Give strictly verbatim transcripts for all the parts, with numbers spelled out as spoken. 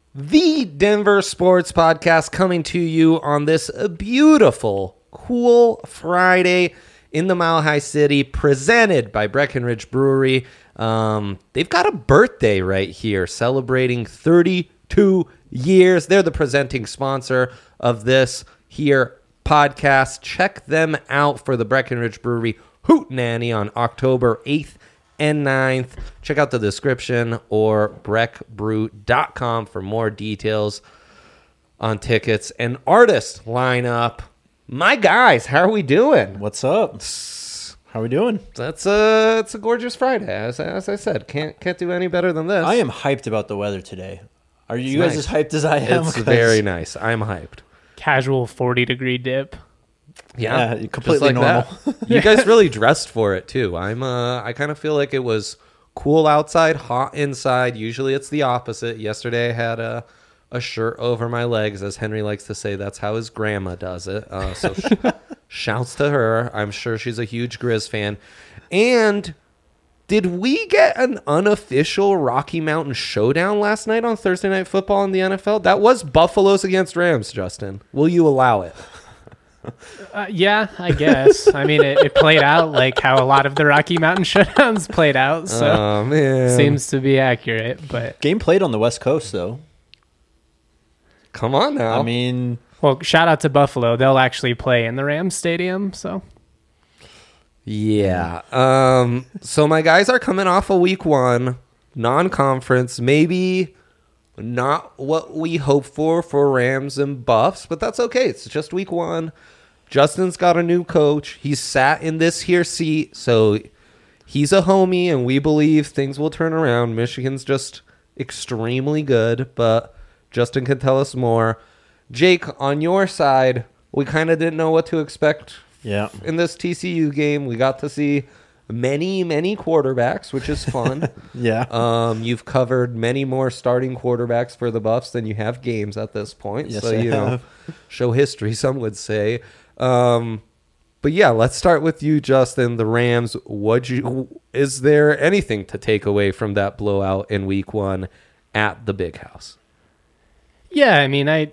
The Denver Sports Podcast coming to you on this beautiful, cool Friday in the Mile High City, presented by Breckenridge Brewery. Um, they've got a birthday right here, celebrating thirty-two years. They're the presenting sponsor of this here podcast. Check them out for the Breckenridge Brewery Hootenanny on October eighth and ninth. Check out the description or breck brew dot com for more details on tickets and artist lineup. My guys, how are we doing? What's up? How are we doing? That's a it's a gorgeous Friday. As, as I said, can't can't do any better than this. I am hyped about the weather today. Are you It's guys nice. as hyped as I am? It's very nice. I'm hyped. Casual forty degree dip. Yeah, Yeah, completely just like normal. that. You guys really dressed for it too. I'm uh I kind of feel like it was cool outside, hot inside. Usually it's the opposite. Yesterday I had a a shirt over my legs, as Henry likes to say. That's how his grandma does it. Uh, so sh- shouts to her. I'm sure she's a huge Grizz fan. And did we get an unofficial Rocky Mountain showdown last night on Thursday Night Football in the N F L? That was Buffaloes against Rams, Justin. Will you allow it? Uh, yeah, I guess. I mean, it, it played out like how a lot of the Rocky Mountain showdowns played out, so Oh, man. seems to be accurate. But Game played on the West Coast, though. Come on now. I mean, well, shout out to Buffalo. They'll actually play in the Rams Stadium. So yeah. Um, so my guys are coming off a week one non-conference, maybe not what we hope for for Rams and Buffs, but that's okay. It's just week one. Justin's got a new coach. He's sat in this here seat, so he's a homie, and we believe things will turn around. Michigan's just extremely good, but Justin can tell us more. Jake, on your side, we kind of didn't know what to expect yeah. in this T C U game. We got to see many, many quarterbacks, which is fun. Yeah. Um, you've covered many more starting quarterbacks for the Buffs than you have games at this point. Yes, so, I you know, have. show history, some would say. Um, but yeah, let's start with you, Justin. The Rams, what you is there anything to take away from that blowout in week one at the Big House? yeah, I mean, I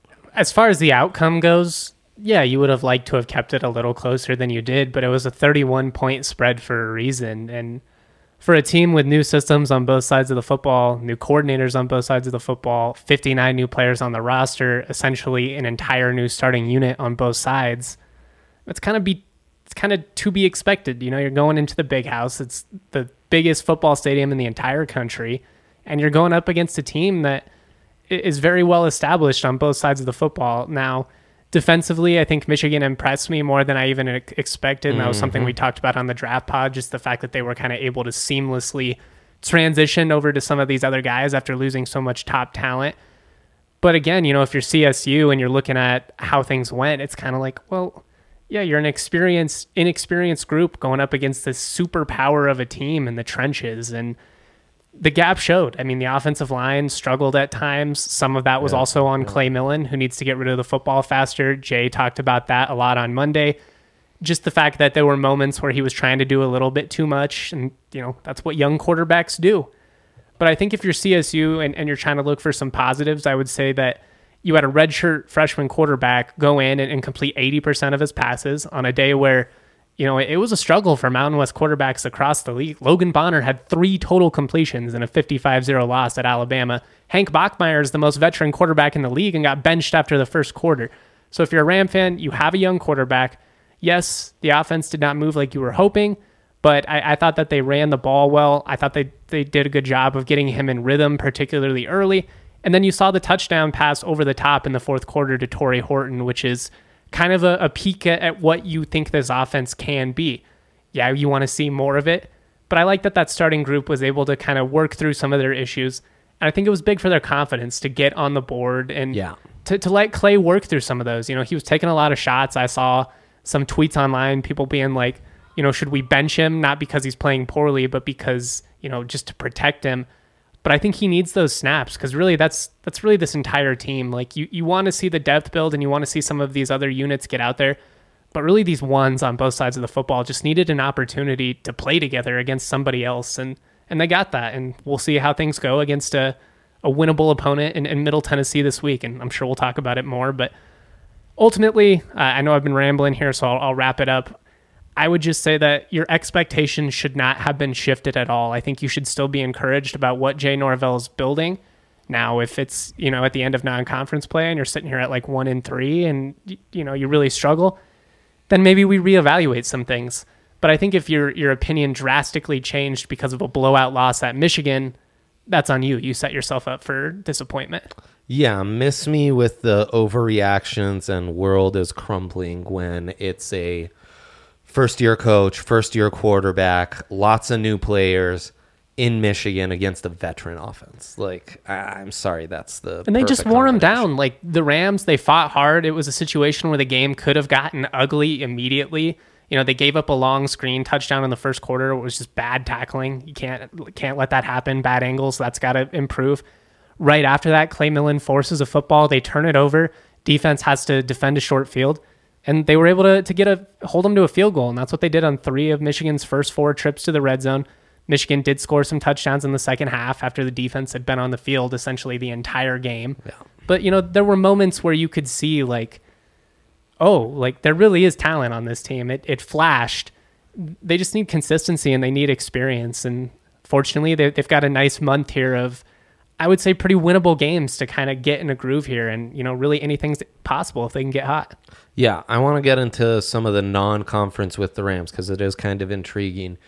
as far as the outcome goes, yeah, you would have liked to have kept it a little closer than you did, but it was a thirty-one point spread for a reason. And for a team with new systems on both sides of the football, new coordinators on both sides of the football, fifty-nine new players on the roster, essentially an entire new starting unit on both sides, it's kind of be it's kind of to be expected. You know, you're going into the Big House. It's the biggest football stadium in the entire country, and you're going up against a team that is very well established on both sides of the football. Now, defensively, I think Michigan impressed me more than I even expected, and that was something we talked about on the draft pod, just the fact that they were kind of able to seamlessly transition over to some of these other guys after losing so much top talent. But again, you know, if you're C S U and you're looking at how things went, it's kind of like, well, yeah, you're an experienced, inexperienced group going up against this superpower of a team in the trenches, and the gap showed. I mean, the offensive line struggled at times. Some of that was yeah, also on yeah. Clay Millen, who needs to get rid of the football faster. Jay talked about that a lot on Monday. Just the fact that there were moments where he was trying to do a little bit too much, and, you know, that's what young quarterbacks do. But I think if you're C S U and, and you're trying to look for some positives, I would say that you had a redshirt freshman quarterback go in and, and complete eighty percent of his passes on a day where, you know, it was a struggle for Mountain West quarterbacks across the league. Logan Bonner had three total completions in a fifty-five zero loss at Alabama. Hank Bachmeier is the most veteran quarterback in the league and got benched after the first quarter. So if you're a Ram fan, you have a young quarterback. Yes, the offense did not move like you were hoping, but I, I thought that they ran the ball well. I thought they, they did a good job of getting him in rhythm, particularly early. And then you saw the touchdown pass over the top in the fourth quarter to Torrey Horton, which is kind of a, a peek at, at what you think this offense can be. Yeah, you want to see more of it, but I like that that starting group was able to kind of work through some of their issues. And I think it was big for their confidence to get on the board and yeah. to, to let Clay work through some of those. You know, he was taking a lot of shots. I saw some tweets online, people being like, you know, should we bench him? Not because he's playing poorly, but because, you know, just to protect him. But I think he needs those snaps because really that's that's really this entire team. Like you, you want to see the depth build and you want to see some of these other units get out there. But really these ones on both sides of the football just needed an opportunity to play together against somebody else. And, and they got that. And we'll see how things go against a, a winnable opponent in, in Middle Tennessee this week, and I'm sure we'll talk about it more. But ultimately, uh, I know I've been rambling here, so I'll, I'll wrap it up. I would just say that your expectations should not have been shifted at all. I think you should still be encouraged about what Jay Norvell is building. Now, if it's, you know, at the end of non-conference play and you're sitting here at like one and three and, you know, you really struggle, then maybe we reevaluate some things. But I think if your your opinion drastically changed because of a blowout loss at Michigan, that's on you. You set yourself up for disappointment. Yeah, miss me with the overreactions and world is crumbling when it's a first-year coach, first-year quarterback, lots of new players in Michigan against a veteran offense. Like, I- I'm sorry, that's the And they just perfect wore them combination. down. Like the Rams, they fought hard. It was a situation where the game could have gotten ugly immediately. You know, they gave up a long screen touchdown in the first quarter. It was just bad tackling. You can't can't let that happen. Bad angles. That's got to improve. Right after that, Clay Millen forces a football. They turn it over. Defense has to defend a short field. And they were able to, to get a hold them to a field goal. And that's what they did on three of Michigan's first four trips to the red zone. Michigan did score some touchdowns in the second half after the defense had been on the field essentially the entire game. Yeah. But, you know, there were moments where you could see, like, oh, like, there really is talent on this team. It it flashed. They just need consistency and they need experience. And fortunately, they, they've got a nice month here of, I would say, pretty winnable games to kind of get in a groove here. And, you know, really anything's possible if they can get hot. Yeah, I want to get into some of the non-conference with the Rams because it is kind of intriguing.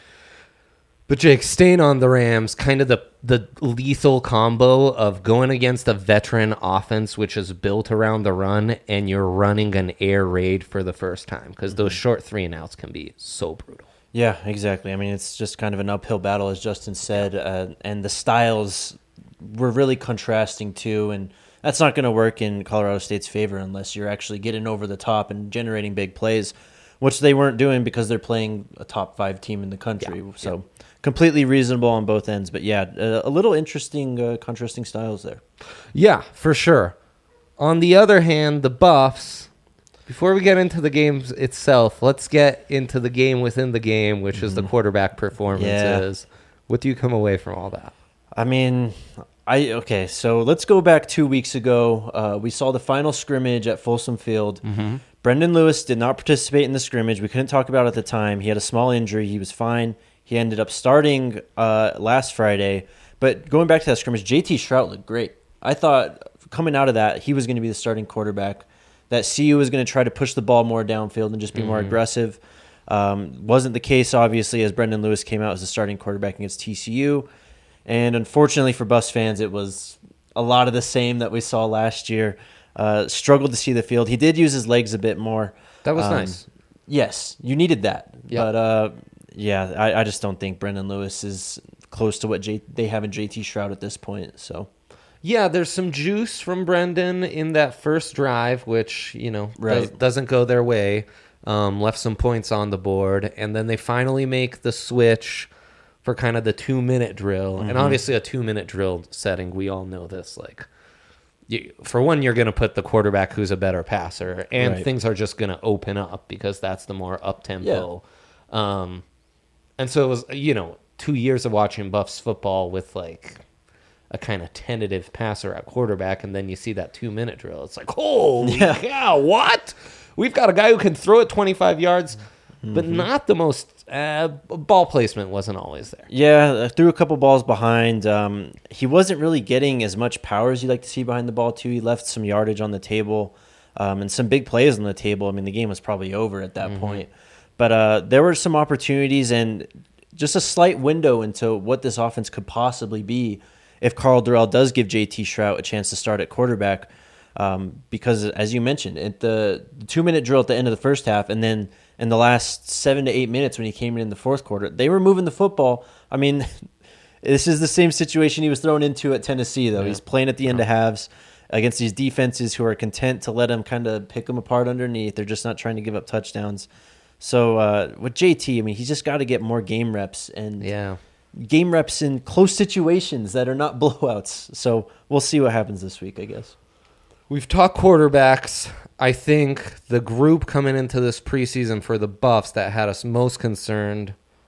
But Jake, staying on the Rams, kind of the, the lethal combo of going against a veteran offense, which is built around the run, and you're running an air raid for the first time because those short three and outs can be so brutal. Yeah, exactly. I mean, it's just kind of an uphill battle, as Justin said, uh, and the styles were really contrasting too, and that's not going to work in Colorado State's favor unless you're actually getting over the top and generating big plays, which they weren't doing because they're playing a top five team in the country. Yeah, so yeah. completely reasonable on both ends. But yeah, a, a little interesting, uh, contrasting styles there. Yeah, for sure. On the other hand, the Buffs, before we get into the game itself, let's get into the game within the game, which is the quarterback performances. Yeah. What do you come away from all that? I mean, I okay, so let's go back two weeks ago. Uh, we saw the final scrimmage at Folsom Field. Mm-hmm. Brendan Lewis did not participate in the scrimmage. We couldn't talk about it at the time. He had a small injury. He was fine. He ended up starting uh, last Friday. But going back to that scrimmage, J T Shrout looked great. I thought coming out of that, he was going to be the starting quarterback. That C U was going to try to push the ball more downfield and just be mm-hmm. more aggressive. Um, wasn't the case, obviously, as Brendan Lewis came out as the starting quarterback against T C U. And unfortunately for Buffs fans, it was a lot of the same that we saw last year. Uh, struggled to see the field. He did use his legs a bit more. That was um, nice. Yes, you needed that. Yep. But, uh, yeah, I, I just don't think Brendan Lewis is close to what J- they have in J T Shrout at this point. So, yeah, there's some juice from Brendan in that first drive, which, you know, right. does, doesn't go their way. Um, left some points on the board. And then they finally make the switch for kind of the two-minute drill. Mm-hmm. And obviously a two-minute drill setting, we all know this. Like, you, for one, you're going to put the quarterback who's a better passer, and right. things are just going to open up because that's the more up-tempo. Yeah. Um, and so it was, you know, two years of watching Buffs football with, like, a kind of tentative passer at quarterback, and then you see that two-minute drill. It's like, holy yeah. cow, what? We've got a guy who can throw it twenty-five yards, mm-hmm. but not the most uh, ball placement wasn't always there. Yeah, threw a couple balls behind. Um, he wasn't really getting as much power as you'd like to see behind the ball, too. He left some yardage on the table um, and some big plays on the table. I mean, the game was probably over at that mm-hmm. point. But uh, there were some opportunities and just a slight window into what this offense could possibly be if Carl Durrell does give J T Shrout a chance to start at quarterback. Um, because, as you mentioned, at the, the two-minute drill at the end of the first half, and then in the last seven to eight minutes when he came in in the fourth quarter, they were moving the football. I mean, this is the same situation he was thrown into at Tennessee, though. Yeah. He's playing at the end of halves against these defenses who are content to let him kind of pick them apart underneath. They're just not trying to give up touchdowns. So uh, with J T, I mean, he's just got to get more game reps and yeah. game reps in close situations that are not blowouts. So we'll see what happens this week, I guess. We've talked quarterbacks. I think the group coming into this preseason for the Buffs that had us most concerned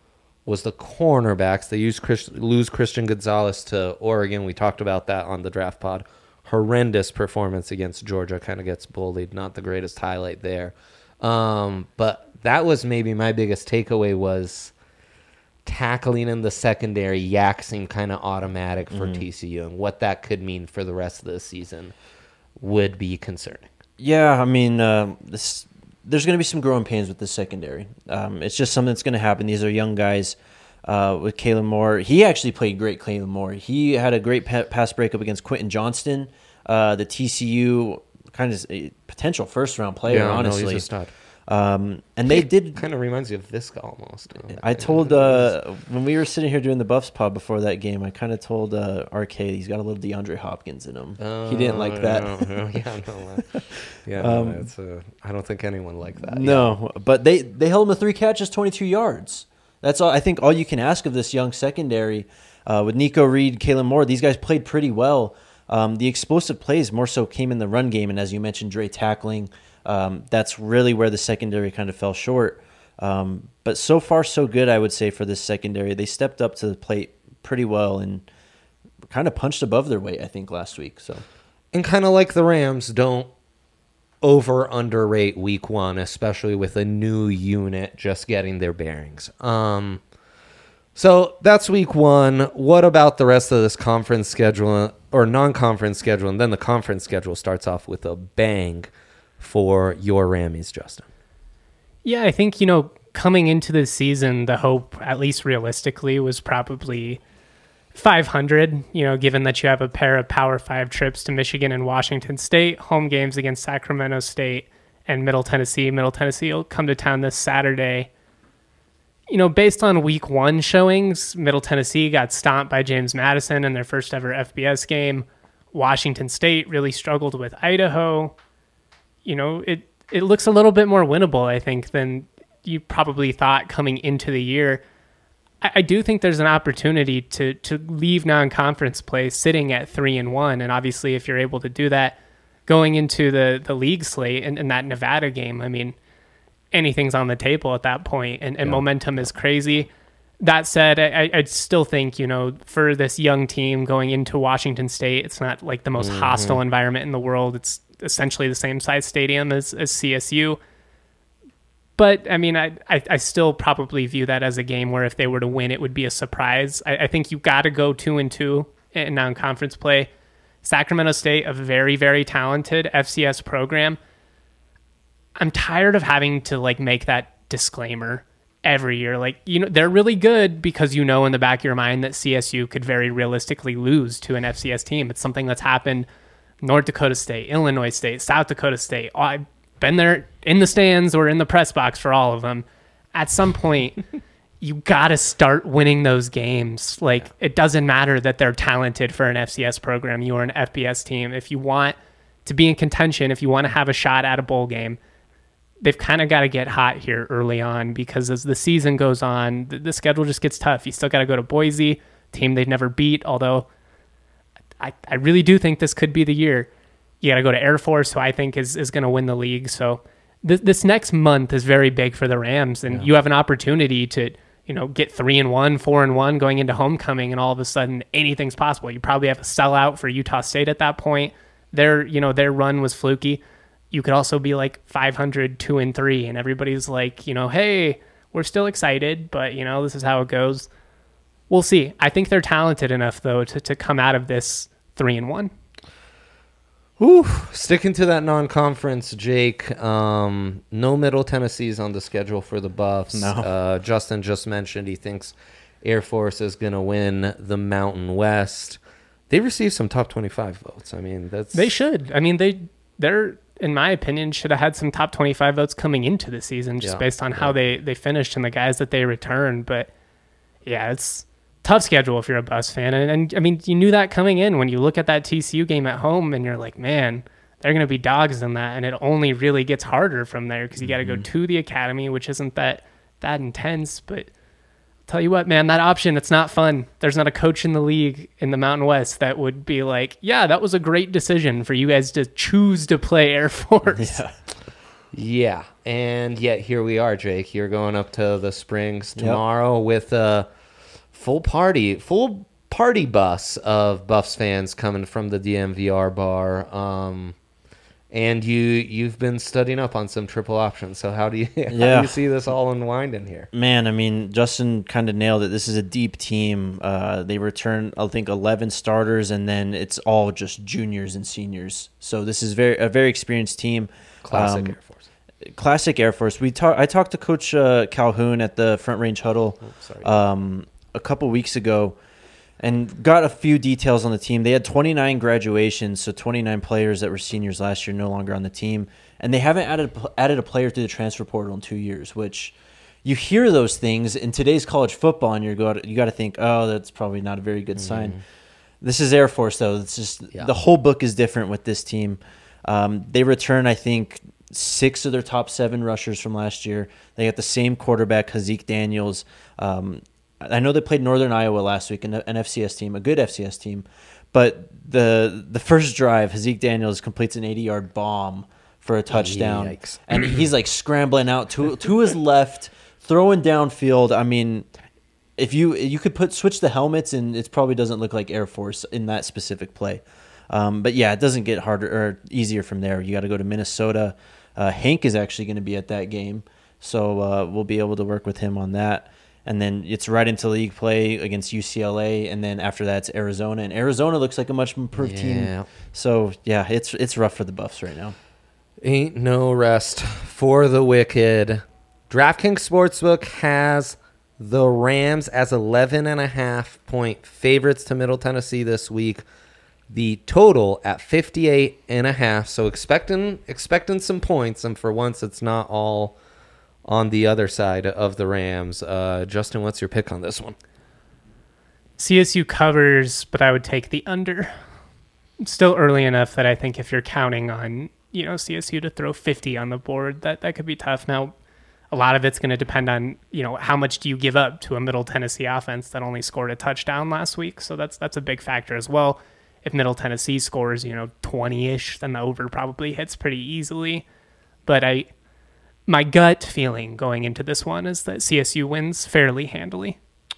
was the cornerbacks. They used Chris, lose Christian Gonzalez to Oregon. We talked about that on the draft pod. Horrendous performance against Georgia. Kind of gets bullied. Not the greatest highlight there. Um, but that was maybe my biggest takeaway was tackling in the secondary. Yak seemed kind of automatic for mm-hmm. T C U, and what that could mean for the rest of the season would be concerning. Yeah, I mean, uh, this, there's going to be some growing pains with the secondary. Um, it's just something that's going to happen. These are young guys. Uh, with Kalen Moore, he actually played great. Kalen Moore, he had a great pa- pass breakup against Quentin Johnston, uh, the T C U kind of a potential first round player. Yeah, honestly, no, he's a stud. Um, and they did kind of reminds you of Visca almost. I told uh, when we were sitting here doing the Buffs pod before that game, I kind of told uh, R K he's got a little DeAndre Hopkins in him. Uh, he didn't like that. No, no, yeah, no, uh, yeah. Um, no, it's a, I don't think anyone liked that. No, yeah. But they they held him to three catches, twenty-two yards. That's all. I think all you can ask of this young secondary uh, with Nico Reed, Kalen Moore. These guys played pretty well. Um, the explosive plays more so came in the run game, and as you mentioned, Dre tackling. Um, that's really where the secondary kind of fell short. Um, but so far, so good, I would say, for this secondary. They stepped up to the plate pretty well and kind of punched above their weight, I think, last week. So, and kind of like the Rams, don't over underrate week one, especially with a new unit just getting their bearings. Um, so that's week one. What about the rest of this conference schedule or non-conference schedule? And then the conference schedule starts off with a bang for your Rammies, Justin. Yeah, I think, you know, coming into the season, the hope, at least realistically, was probably five hundred, you know, given that you have a pair of Power Five trips to Michigan and Washington State, home games against Sacramento State and Middle Tennessee. Middle Tennessee will come to town this Saturday. You know, based on week one showings, Middle Tennessee got stomped by James Madison in their first ever F B S game. Washington State really struggled with Idaho. You know, it, it looks a little bit more winnable, I think, than you probably thought coming into the year. I, I do think there's an opportunity to to leave non-conference play sitting at three and one, and obviously, if you're able to do that, going into the the league slate and, and that Nevada game, I mean, anything's on the table at that point, and, and yeah. momentum is crazy. That said, I, I still think, you know, for this young team going into Washington State, it's not like the most mm-hmm. hostile environment in the world. It's essentially the same size stadium as, as C S U. But, I mean, I, I, I still probably view that as a game where if they were to win, it would be a surprise. I, I think you got to go two and two in non-conference play. Sacramento State, a very, very talented F C S program. I'm tired of having to, like, make that disclaimer every year. Like, you know, they're really good because you know in the back of your mind that C S U could very realistically lose to an F C S team. It's something that's happened North Dakota State, Illinois State, South Dakota State. I've been there in the stands or in the press box for all of them. At some point, you got to start winning those games. Like, it doesn't matter that they're talented for an F C S program. You are an F B S team. If you want to be in contention, if you want to have a shot at a bowl game, they've kind of got to get hot here early on, because as the season goes on, the, the schedule just gets tough. You still got to go to Boise, team they've never beat, although I, I really do think this could be the year. You got to go to Air Force, who I think is, is going to win the league. So this, this next month is very big for the Rams, and yeah. you have an opportunity to, you know, get three and one, four and one going into homecoming, and all of a sudden anything's possible. You probably have a sellout for Utah State at that point. Their, you know, their run was fluky. You could also be like five hundred, two and three, and everybody's like, you know, hey, we're still excited, but, you know, this is how it goes. We'll see. I think they're talented enough, though, to, to come out of this three and one. Ooh, sticking to that non-conference, Jake. Um, no Middle Tennessee's on the schedule for the Buffs. No. Uh, Justin just mentioned he thinks Air Force is going to win the Mountain West. They received some top twenty-five votes. I mean, that's they should. I mean, they they're in my opinion should have had some top twenty-five votes coming into the season, just yeah, based on yeah. how they they finished and the guys that they returned. But yeah, it's tough schedule if you're a Buffs fan, and, and I mean, you knew that coming in when you look at that T C U game at home, and you're like, man, they're going to be dogs in that, and it only really gets harder from there because you got to mm-hmm. go to the academy, which isn't that that intense. But I'll tell you what, man, that option, it's not fun. There's not a coach in the league in the Mountain West that would be like, yeah, that was a great decision for you guys to choose to play Air Force. Yeah. Yeah, and yet here we are, Jake. You're going up to the Springs tomorrow yep. with a full party, full party bus of Buffs fans coming from the D M V R bar. Um, and you you've been studying up on some triple options. So how do you how yeah. do you see this all unwinding here? Man, I mean, Justin kind of nailed it. This is a deep team. Uh, they return, I think, eleven starters, and then it's all just juniors and seniors. So this is very a very experienced team. Classic um, Air Force. Classic Air Force. We talk, I talked to Coach uh, Calhoun at the Front Range Huddle oh, sorry. Um, a couple weeks ago and got a few details on the team. They had twenty-nine graduations, so twenty-nine players that were seniors last year no longer on the team. And they haven't added, added a player through the transfer portal in two years, which you hear those things in today's college football, and you got you got to think, oh, that's probably not a very good mm-hmm. sign. This is Air Force, though. It's just yeah. the whole book is different with this team. Um, they return, I think, six of their top seven rushers from last year. They got the same quarterback, Hazik Daniels. Um, I know they played Northern Iowa last week, an, an F C S team, a good F C S team. But the the first drive, Hazik Daniels completes an eighty-yard bomb for a touchdown. Yikes. And he's like scrambling out to to his left, throwing downfield. I mean, if you you could put switch the helmets, and it probably doesn't look like Air Force in that specific play. Um, but yeah, it doesn't get harder or easier from there. You got to go to Minnesota. Uh, Hank is actually going to be at that game, so uh, we'll be able to work with him on that. And then it's right into league play against U C L A, and then after that, it's Arizona. And Arizona looks like a much improved yeah. team. So yeah, it's it's rough for the Buffs right now. Ain't no rest for the wicked. DraftKings Sportsbook has the Rams as eleven and a half point favorites to Middle Tennessee this week. The total at fifty-eight and a half. So expecting expecting some points, and for once, it's not all on the other side of the Rams. Uh, Justin, what's your pick on this one? C S U covers, but I would take the under. It's still early enough that I think if you're counting on, you know, C S U to throw fifty on the board, that, that could be tough. Now, a lot of it's going to depend on, you know, how much do you give up to a Middle Tennessee offense that only scored a touchdown last week. So that's that's a big factor as well. If Middle Tennessee scores, you know, twenty-ish, then the over probably hits pretty easily. But I, my gut feeling going into this one is that C S U wins fairly handily.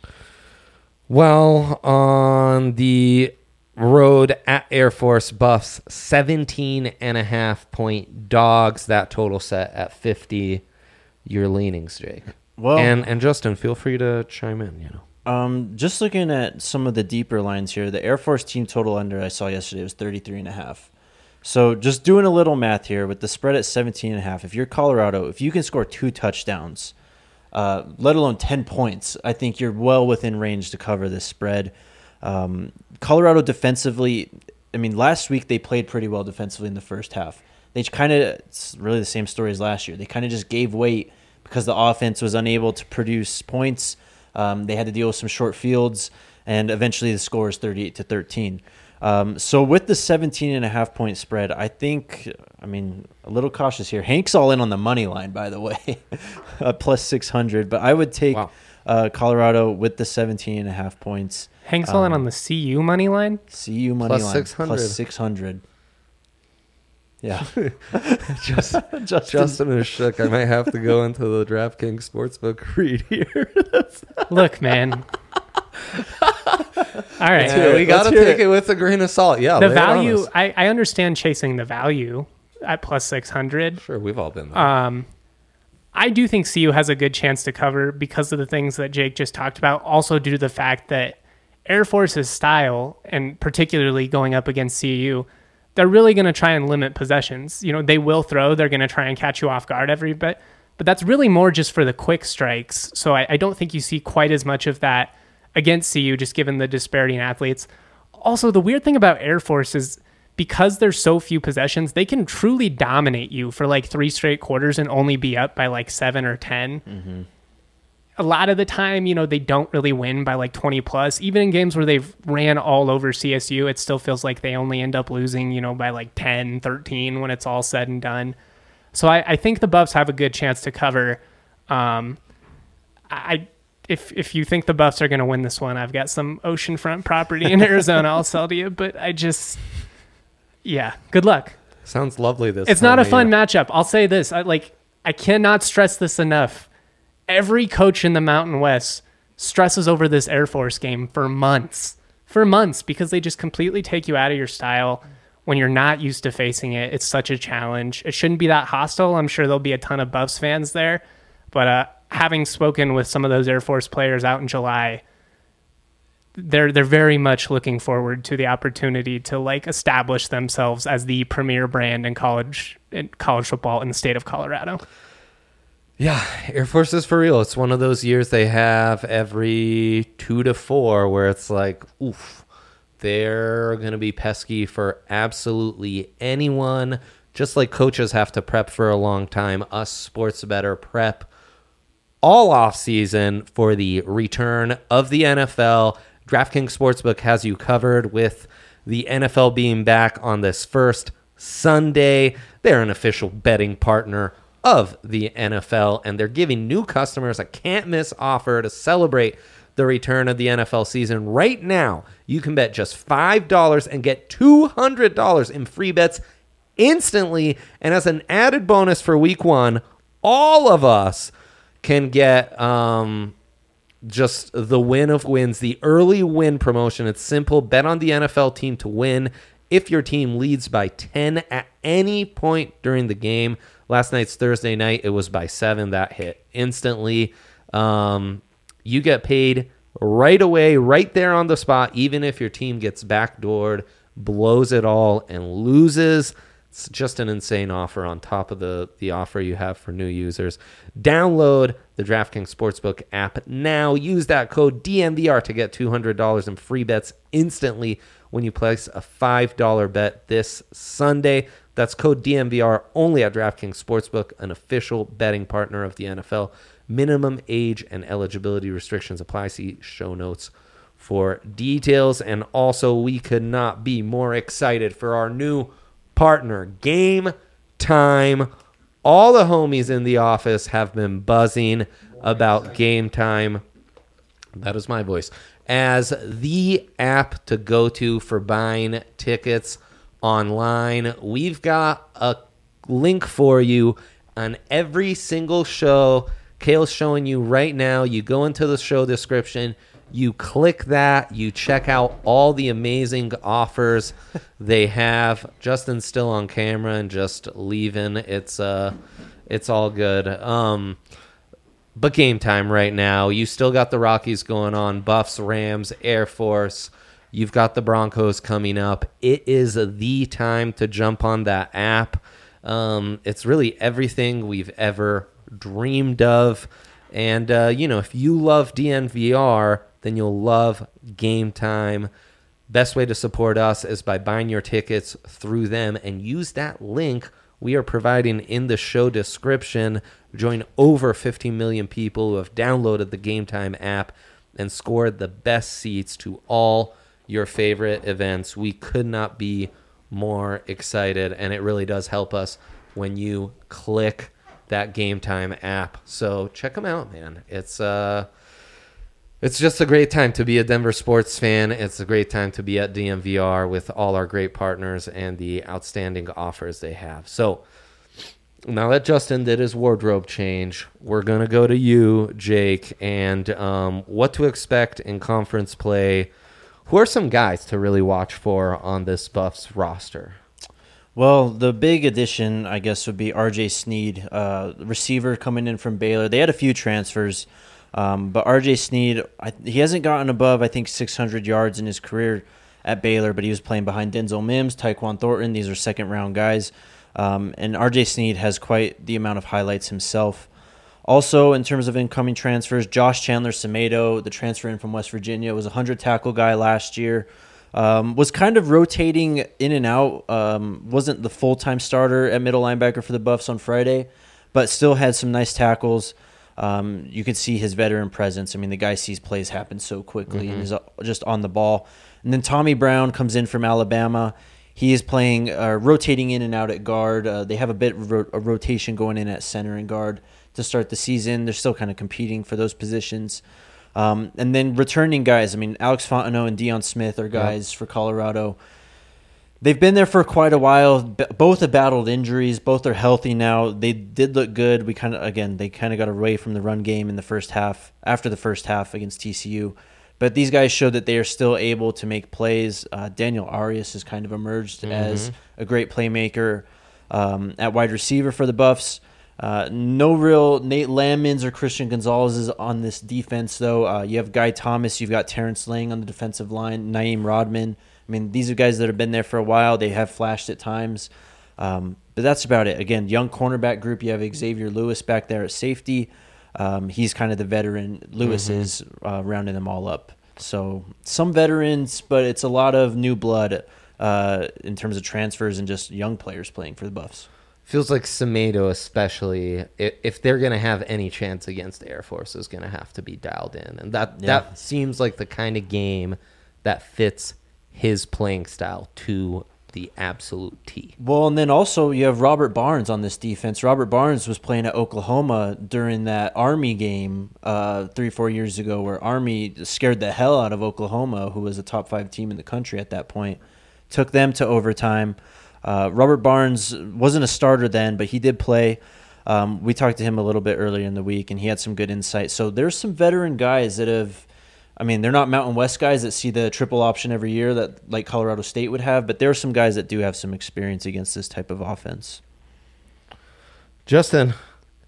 Well, on the road at Air Force, Buffs seventeen and a half point dogs. That total set at fifty. Your leanings, Jake. Well, and and Justin, feel free to chime in. You know. Um, just looking at some of the deeper lines here, the Air Force team total under I saw yesterday was thirty-three and a half. So just doing a little math here with the spread at seventeen and a half. If you're Colorado, if you can score two touchdowns, uh, let alone ten points, I think you're well within range to cover this spread. Um, Colorado defensively, I mean, last week they played pretty well defensively in the first half. They kind of, it's really the same story as last year. They kind of just gave weight because the offense was unable to produce points. Um, they had to deal with some short fields, and eventually the score is thirty-eight to thirteen. Um, so with the seventeen and a half point spread, I think, I mean, a little cautious here. Hank's all in on the money line, by the way, uh, plus six hundred. But I would take wow. uh, Colorado with the seventeen and a half points. Hank's um, all in on the C U money line? C U money plus line. six hundred. Plus six hundred. Yeah. Just, Justin. Justin is shook. I might have to go into the DraftKings Sportsbook read here. Look, man. All right. Yeah, we got to take it. it with a grain of salt. Yeah. The value, I, I understand chasing the value at plus six hundred. Sure, we've all been there. Um, I do think C U has a good chance to cover because of the things that Jake just talked about, also due to the fact that Air Force's style, and particularly going up against C U, they're really going to try and limit possessions. You know, they will throw. They're going to try and catch you off guard every bit. But that's really more just for the quick strikes. So I, I don't think you see quite as much of that against C U, just given the disparity in athletes. Also, the weird thing about Air Force is because there's so few possessions, they can truly dominate you for like three straight quarters and only be up by like seven or ten. Mm-hmm. A lot of the time, you know, they don't really win by like twenty plus. Even in games where they've ran all over C S U, it still feels like they only end up losing, you know, by like ten, thirteen when it's all said and done. So I, I think the Buffs have a good chance to cover. Um, I if if you think the Buffs are going to win this one, I've got some oceanfront property in Arizona I'll sell to you. But I just, yeah, good luck. Sounds lovely. This It's time not a of fun year. matchup. I'll say this. I like I cannot stress this enough. Every coach in the Mountain West stresses over this Air Force game for months. For months, because they just completely take you out of your style when you're not used to facing it. It's such a challenge. It shouldn't be that hostile. I'm sure there'll be a ton of Buffs fans there. But uh, having spoken with some of those Air Force players out in July, they're they're very much looking forward to the opportunity to like establish themselves as the premier brand in college in college football in the state of Colorado. Yeah, Air Force is for real. It's one of those years they have every two to four where it's like, oof, they're going to be pesky for absolutely anyone. Just like coaches have to prep for a long time, us sports better prep all off season for the return of the N F L. DraftKings Sportsbook has you covered with the N F L being back on this first Sunday. They're an official betting partner of the N F L, and they're giving new customers a can't-miss offer to celebrate the return of the N F L season. Right now, you can bet just five dollars and get two hundred dollars in free bets instantly, and as an added bonus for week one, all of us can get um, just the win of wins, the early win promotion. It's simple. Bet on the N F L team to win. If your team leads by ten at any point during the game, last night's Thursday night, it was by seven. That hit instantly. Um, you get paid right away, right there on the spot, even if your team gets backdoored, blows it all, and loses. It's just an insane offer on top of the, the offer you have for new users. Download the DraftKings Sportsbook app now. Use that code D M V R to get two hundred dollars in free bets instantly when you place a five dollar bet this Sunday. That's code D M V R only at DraftKings Sportsbook, an official betting partner of the N F L. Minimum age and eligibility restrictions apply. See show notes for details. And also, we could not be more excited for our new partner, Game Time. All the homies in the office have been buzzing about Game Time. That is my voice. As the app to go to for buying tickets online. We've got a link for you on every single show. Kale's showing you right now. You go into the show description, you click that, you check out all the amazing offers they have. Justin's still on camera and just leaving. It's uh it's all good. Um But Game Time right now, you still got the Rockies going on, Buffs, Rams, Air Force. You've got the Broncos coming up. It is the time to jump on that app. Um, it's really everything we've ever dreamed of. And, uh, you know, if you love D N V R, then you'll love Game Time. Best way to support us is by buying your tickets through them and use that link we are providing in the show description. Join over fifteen million people who have downloaded the Game Time app and scored the best seats to all your favorite events. We could not be more excited, and it really does help us when you click that Game Time app. So check them out, man. It's uh, it's just a great time to be a Denver sports fan. It's a great time to be at D M V R with all our great partners and the outstanding offers they have. So now that Justin did his wardrobe change, we're going to go to you, Jake, and um, what to expect in conference play. Who are some guys to really watch for on this Buffs roster? Well, the big addition, I guess, would be R J Sneed, uh, receiver coming in from Baylor. They had a few transfers, um, but R J Sneed, I, he hasn't gotten above, I think, six hundred yards in his career at Baylor, but he was playing behind Denzel Mims, Tyquan Thornton. These are second-round guys. Um, and R J Sneed has quite the amount of highlights himself. Also, in terms of incoming transfers, Josh Chandler-Semedo, the transfer in from West Virginia, was a hundred-tackle guy last year. Um, was kind of rotating in and out. Um, wasn't the full-time starter at middle linebacker for the Buffs on Friday, but still had some nice tackles. Um, you could see his veteran presence. I mean, the guy sees plays happen so quickly mm-hmm. and is just on the ball. And then Tommy Brown comes in from Alabama. He is playing, uh, rotating in and out at guard. Uh, they have a bit of ro- a rotation going in at center and guard to start the season. They're still kind of competing for those positions. Um, and then returning guys, I mean, Alex Fontenot and Deion Smith are guys yep. for Colorado. They've been there for quite a while. B- Both have battled injuries. Both are healthy now. They did look good. We kind of, again, they kind of got away from the run game in the first half, after the first half against T C U. But these guys showed that they are still able to make plays. Uh, Daniel Arias has kind of emerged mm-hmm. as a great playmaker um, at wide receiver for the Buffs. Uh, no real Nate Lamons or Christian Gonzalez on this defense, though. Uh, you have Guy Thomas. You've got Terrence Lang on the defensive line, Naeem Rodman. I mean, these are guys that have been there for a while. They have flashed at times. Um, but that's about it. Again, young cornerback group. You have Xavier Lewis back there at safety. Um, he's kind of the veteran. Lewis mm-hmm. is uh, rounding them all up. So some veterans, but it's a lot of new blood uh, in terms of transfers and just young players playing for the Buffs. Feels like Semedo, especially, if, if they're going to have any chance against Air Force, is going to have to be dialed in. And that, yeah. that seems like the kind of game that fits his playing style to the absolute T. Well, and then also you have Robert Barnes on this defense. Robert Barnes was playing at Oklahoma during that Army game uh, three, four years ago where Army scared the hell out of Oklahoma, who was a top five team in the country at that point. Took them to overtime. Uh, Robert Barnes wasn't a starter then, but he did play. Um, we talked to him a little bit earlier in the week, and he had some good insight. So there's some veteran guys that have – I mean, they're not Mountain West guys that see the triple option every year that like Colorado State would have, but there are some guys that do have some experience against this type of offense. Justin,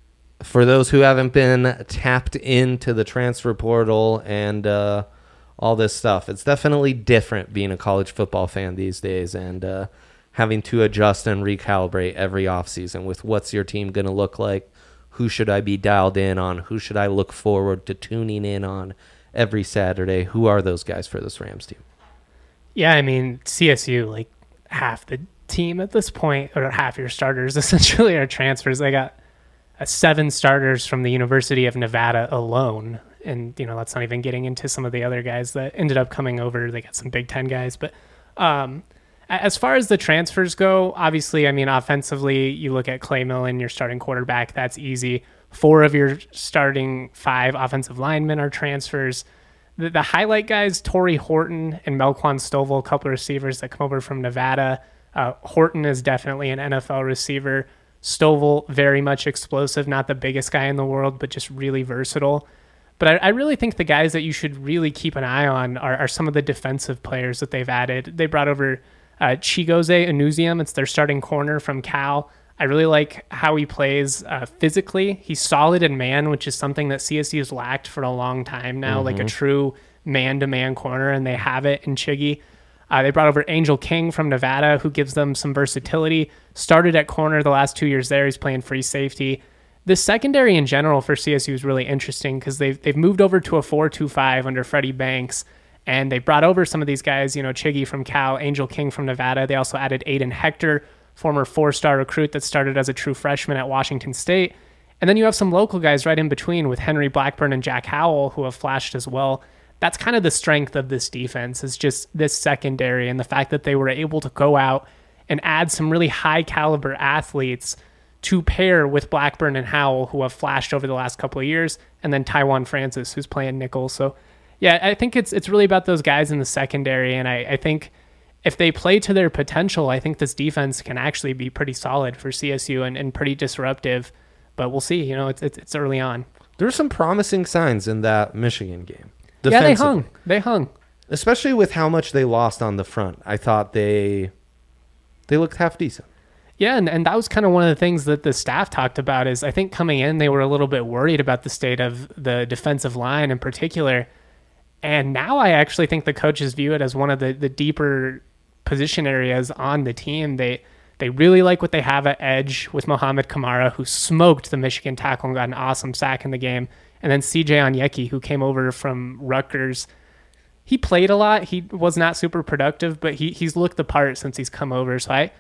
for those who haven't been tapped into the transfer portal and uh, all this stuff, it's definitely different being a college football fan these days and uh, having to adjust and recalibrate every offseason with what's your team going to look like, who should I be dialed in on, who should I look forward to tuning in on every Saturday. Who are those guys for this Rams team? Yeah, I mean, C S U, like half the team at this point, or half your starters essentially are transfers. They got uh, seven starters from the University of Nevada alone. And, you know, that's not even getting into some of the other guys that ended up coming over. They got some Big Ten guys. But um, as far as the transfers go, obviously, I mean, offensively, you look at Clay Millen, your starting quarterback, that's easy. Four of your starting five offensive linemen are transfers. The, the highlight guys, Torrey Horton and Melquan Stovall, a couple of receivers that come over from Nevada. Uh, Horton is definitely an N F L receiver. Stovall, very much explosive, not the biggest guy in the world, but just really versatile. But I, I really think the guys that you should really keep an eye on are, are some of the defensive players that they've added. They brought over uh, Chigozie Anuzium. It's their starting corner from Cal. I really like how he plays uh, physically. He's solid in man, which is something that C S U has lacked for a long time now, mm-hmm. like a true man-to-man corner, and they have it in Chiggy. Uh, they brought over Angel King from Nevada, who gives them some versatility. Started at corner the last two years there. He's playing free safety. The secondary in general for C S U is really interesting because they've, they've moved over to a four two five under Freddie Banks, and they brought over some of these guys, you know, Chiggy from Cal, Angel King from Nevada. They also added Aiden Hector, former four-star recruit that started as a true freshman at Washington State. And then you have some local guys right in between with Henry Blackburn and Jack Howell who have flashed as well. That's kind of the strength of this defense, is just this secondary and the fact that they were able to go out and add some really high-caliber athletes to pair with Blackburn and Howell, who have flashed over the last couple of years, and then Taiwan Francis, who's playing nickel. So, yeah, I think it's it's really about those guys in the secondary, and I, I think if they play to their potential, I think this defense can actually be pretty solid for C S U and, and pretty disruptive. But we'll see. You know, it's it's, it's early on. There were some promising signs in that Michigan game. Yeah, they hung. They hung. Especially with how much they lost on the front. I thought they they looked half decent. Yeah, and, and that was kind of one of the things that the staff talked about is I think coming in, they were a little bit worried about the state of the defensive line in particular. And now I actually think the coaches view it as one of the, the deeper position areas on the team. They they really like what they have at edge with Mohamed Kamara, who smoked the Michigan tackle and got an awesome sack in the game. And then C J Onyeki, who came over from Rutgers. He played a lot. He was not super productive, but he he's looked the part since he's come over. So I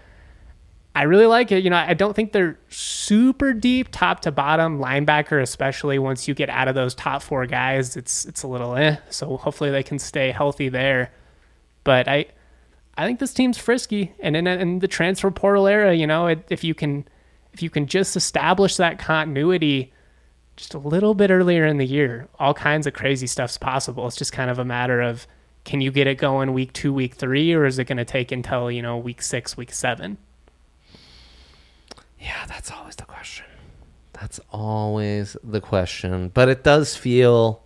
I really like it. You know, I don't think they're super deep, top to bottom, linebacker especially. Once you get out of those top four guys, it's it's a little eh. So hopefully they can stay healthy there. But I I think this team's frisky, and in, in the transfer portal era, you know, it, if you can if you can just establish that continuity just a little bit earlier in the year, all kinds of crazy stuff's possible. It's just kind of a matter of can you get it going week two, week three, or is it going to take until, you know, week six, week seven? Yeah, that's always the question. That's always the question. But it does feel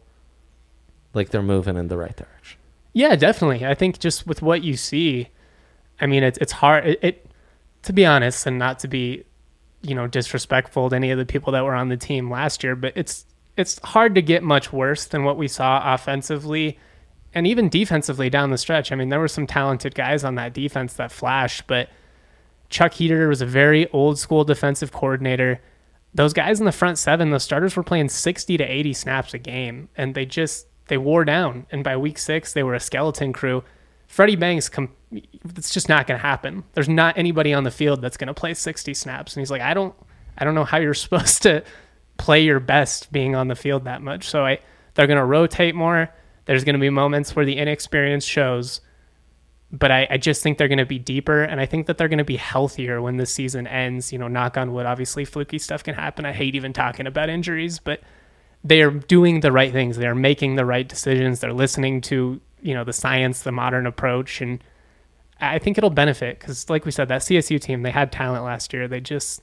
like they're moving in the right direction. Yeah, definitely. I think just with what you see, I mean, it's it's hard. It, it to be honest, and not to be, you know, disrespectful to any of the people that were on the team last year, but it's it's hard to get much worse than what we saw offensively and even defensively down the stretch. I mean, there were some talented guys on that defense that flashed, but Chuck Heater was a very old school defensive coordinator. Those guys in the front seven, the starters were playing sixty to eighty snaps a game, and they just, they wore down. And by week six, they were a skeleton crew. Freddie Banks, com- it's just not going to happen. There's not anybody on the field that's going to play sixty snaps. And he's like, I don't, I don't know how you're supposed to play your best being on the field that much. So I, they're going to rotate more. There's going to be moments where the inexperience shows, but I, I just think they're going to be deeper, and I think that they're going to be healthier when this season ends. You know, knock on wood, obviously fluky stuff can happen. I hate even talking about injuries, but they are doing the right things. They are making the right decisions. They're listening to, you know, the science, the modern approach, and I think it'll benefit because, like we said, that C S U team, they had talent last year. They just,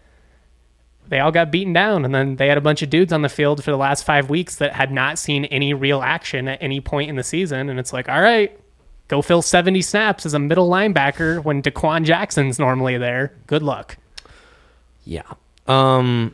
they all got beaten down, and then they had a bunch of dudes on the field for the last five weeks that had not seen any real action at any point in the season, and it's like, all right, go fill seventy snaps as a middle linebacker when Daquan Jackson's normally there. Good luck. Yeah. Um,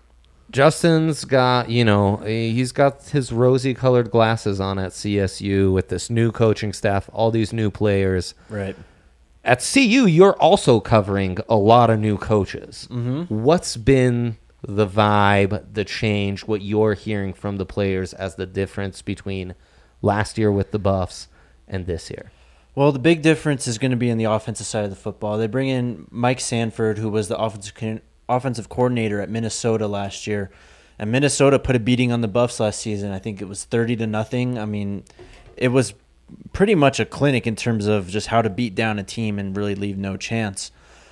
Justin's got, you know, he's got his rosy colored glasses on at C S U with this new coaching staff, all these new players. Right. At C U, you're also covering a lot of new coaches. Mm-hmm. What's been the vibe, the change, what you're hearing from the players as the difference between last year with the Buffs and this year? Well, the big difference is going to be in the offensive side of the football. They bring in Mike Sanford, who was the offensive co- offensive coordinator at Minnesota last year, and Minnesota put a beating on the Buffs last season. I think it was thirty to nothing. I mean, it was pretty much a clinic in terms of just how to beat down a team and really leave no chance.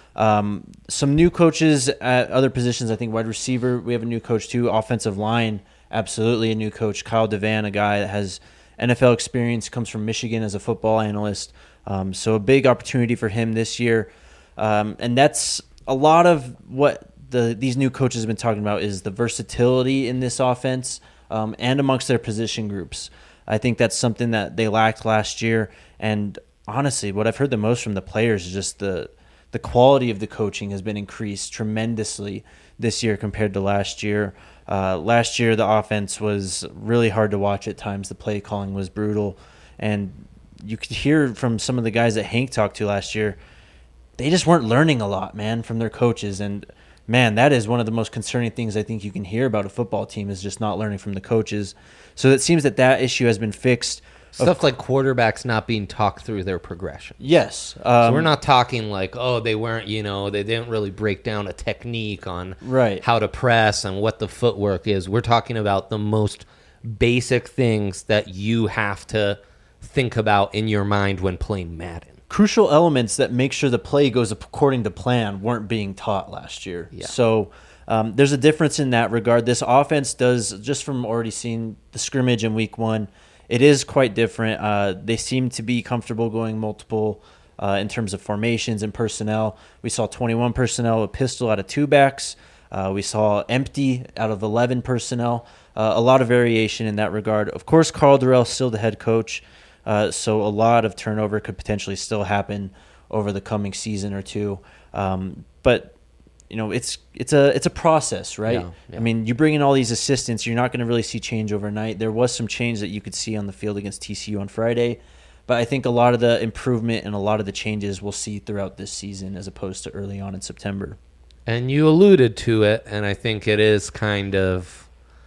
Um, some new coaches at other positions. I think wide receiver, we have a new coach too. Offensive line, absolutely a new coach. Kyle Devan, a guy that has N F L experience, comes from Michigan as a football analyst. Um, so a big opportunity for him this year. Um, and that's a lot of what the these new coaches have been talking about is the versatility in this offense um, and amongst their position groups. I think that's something that they lacked last year. And honestly, what I've heard the most from the players is just the the quality of the coaching has been increased tremendously this year compared to last year. Uh, last year, the offense was really hard to watch at times. The play calling was brutal. And you could hear from some of the guys that Hank talked to last year, they just weren't learning a lot, man, from their coaches. And, man, that is one of the most concerning things I think you can hear about a football team is just not learning from the coaches. So it seems that that issue has been fixed. Stuff like quarterbacks not being talked through their progression. Yes. Um, so we're not talking like, oh, they weren't, you know, they didn't really break down a technique on right. how to press and what the footwork is. We're talking about the most basic things that you have to think about in your mind when playing Madden. Crucial elements that make sure the play goes according to plan weren't being taught last year. Yeah. So um, there's a difference in that regard. This offense does, just from already seeing the scrimmage in week one, it is quite different. Uh, they seem to be comfortable going multiple uh, in terms of formations and personnel. We saw twenty-one personnel, a pistol out of two backs. Uh, we saw empty out of eleven personnel. Uh, a lot of variation in that regard. Of course, Carl Durrell still the head coach, uh, so a lot of turnover could potentially still happen over the coming season or two. Um, but you know, it's it's a it's a process, right? Yeah, yeah. I mean, you bring in all these assistants, you're not going to really see change overnight. There was some change that you could see on the field against T C U on Friday, but I think a lot of the improvement and a lot of the changes we'll see throughout this season as opposed to early on in September. And you alluded to it, and I think it is kind of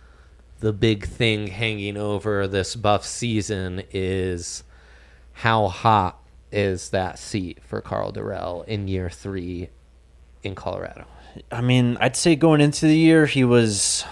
the big thing hanging over this Buff season is how hot is that seat for Carl Durrell in year three in Colorado? I mean, I'd say going into the year, he was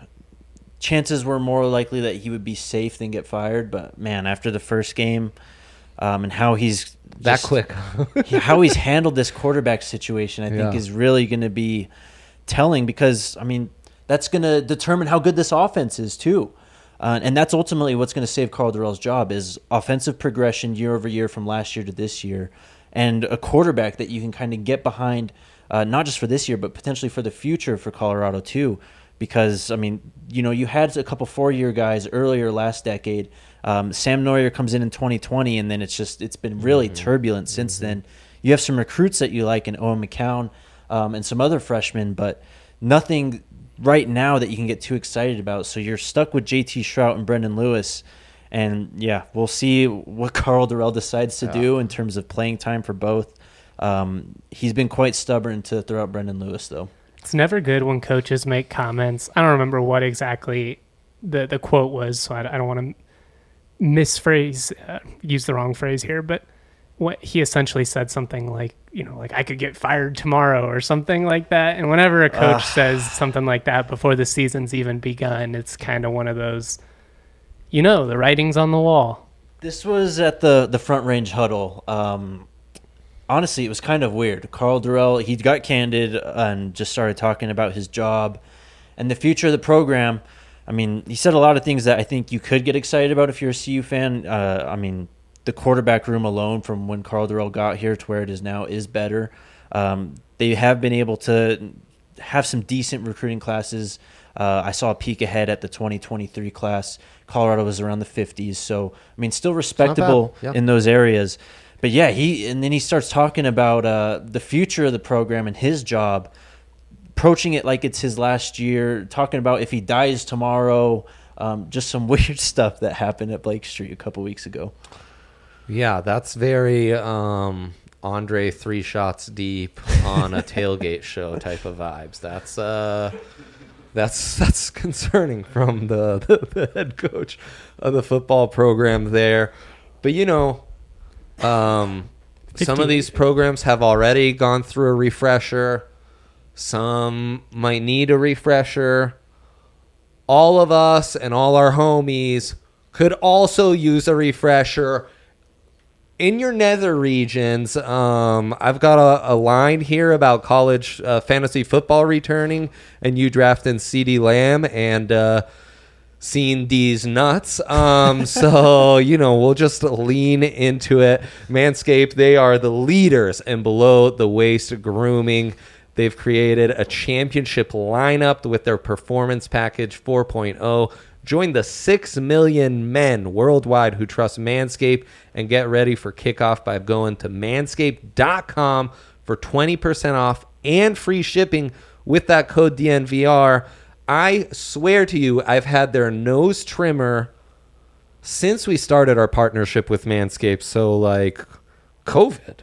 chances were more likely that he would be safe than get fired. But man, after the first game, um, and how he's that just, quick, how he's handled this quarterback situation, I think Yeah. is really going to be telling because I mean that's going to determine how good this offense is too. Uh, and that's ultimately what's going to save Karl Dorrell's job is offensive progression year over year from last year to this year, and a quarterback that you can kind of get behind, uh, not just for this year, but potentially for the future for Colorado too. Because, I mean, you know, you had a couple four-year guys earlier last decade. Um, Sam Neuer comes in in twenty twenty, and then it's just it's been really mm-hmm. turbulent since mm-hmm. then. You have some recruits that you like in Owen McCown um, and some other freshmen, but nothing right now that you can get too excited about. So you're stuck with J T Shrout and Brendan Lewis. And, yeah, we'll see what Karl Dorrell decides to yeah. do in terms of playing time for both. Um, he's been quite stubborn to throw out Brendan Lewis, though. It's never good when coaches make comments. I don't remember what exactly the, the quote was, so I, I don't want to misphrase, uh, use the wrong phrase here, but what he essentially said something like, you know, like I could get fired tomorrow or something like that. And whenever a coach uh. says something like that before the season's even begun, it's kind of one of those, you know, the writing's on the wall. This was at the, the Front Range huddle. Um, honestly, it was kind of weird. Karl Dorrell, he got candid and just started talking about his job and the future of the program. I mean, he said a lot of things that I think you could get excited about if you're a C U fan. Uh, I mean, the quarterback room alone from when Karl Dorrell got here to where it is now is better. Um, they have been able to have some decent recruiting classes. Uh, I saw a peek ahead at the twenty twenty-three class. Colorado was around the fifties. So, I mean, still respectable yeah. in those areas. But, yeah, he and then he starts talking about uh, the future of the program and his job, approaching it like it's his last year, talking about if he dies tomorrow, um, just some weird stuff that happened at Blake Street a couple weeks ago. Yeah, that's very um, Andre three shots deep on a tailgate show type of vibes. That's uh, that's that's concerning from the, the, the head coach of the football program there. But, you know, um, some of these programs have already gone through a refresher. Some might need a refresher. All of us and all our homies could also use a refresher. In your nether regions, um, I've got a, a line here about college uh, fantasy football returning and you drafting CeeDee Lamb and uh, seeing these nuts. Um, so, you know, we'll just lean into it. Manscaped, they are the leaders in below-the-waist grooming. They've created a championship lineup with their Performance Package four point oh. Join the six million men worldwide who trust Manscaped and get ready for kickoff by going to manscaped dot com for twenty percent off and free shipping with that code D N V R. I swear to you, I've had their nose trimmer since we started our partnership with Manscaped. So, like, COVID.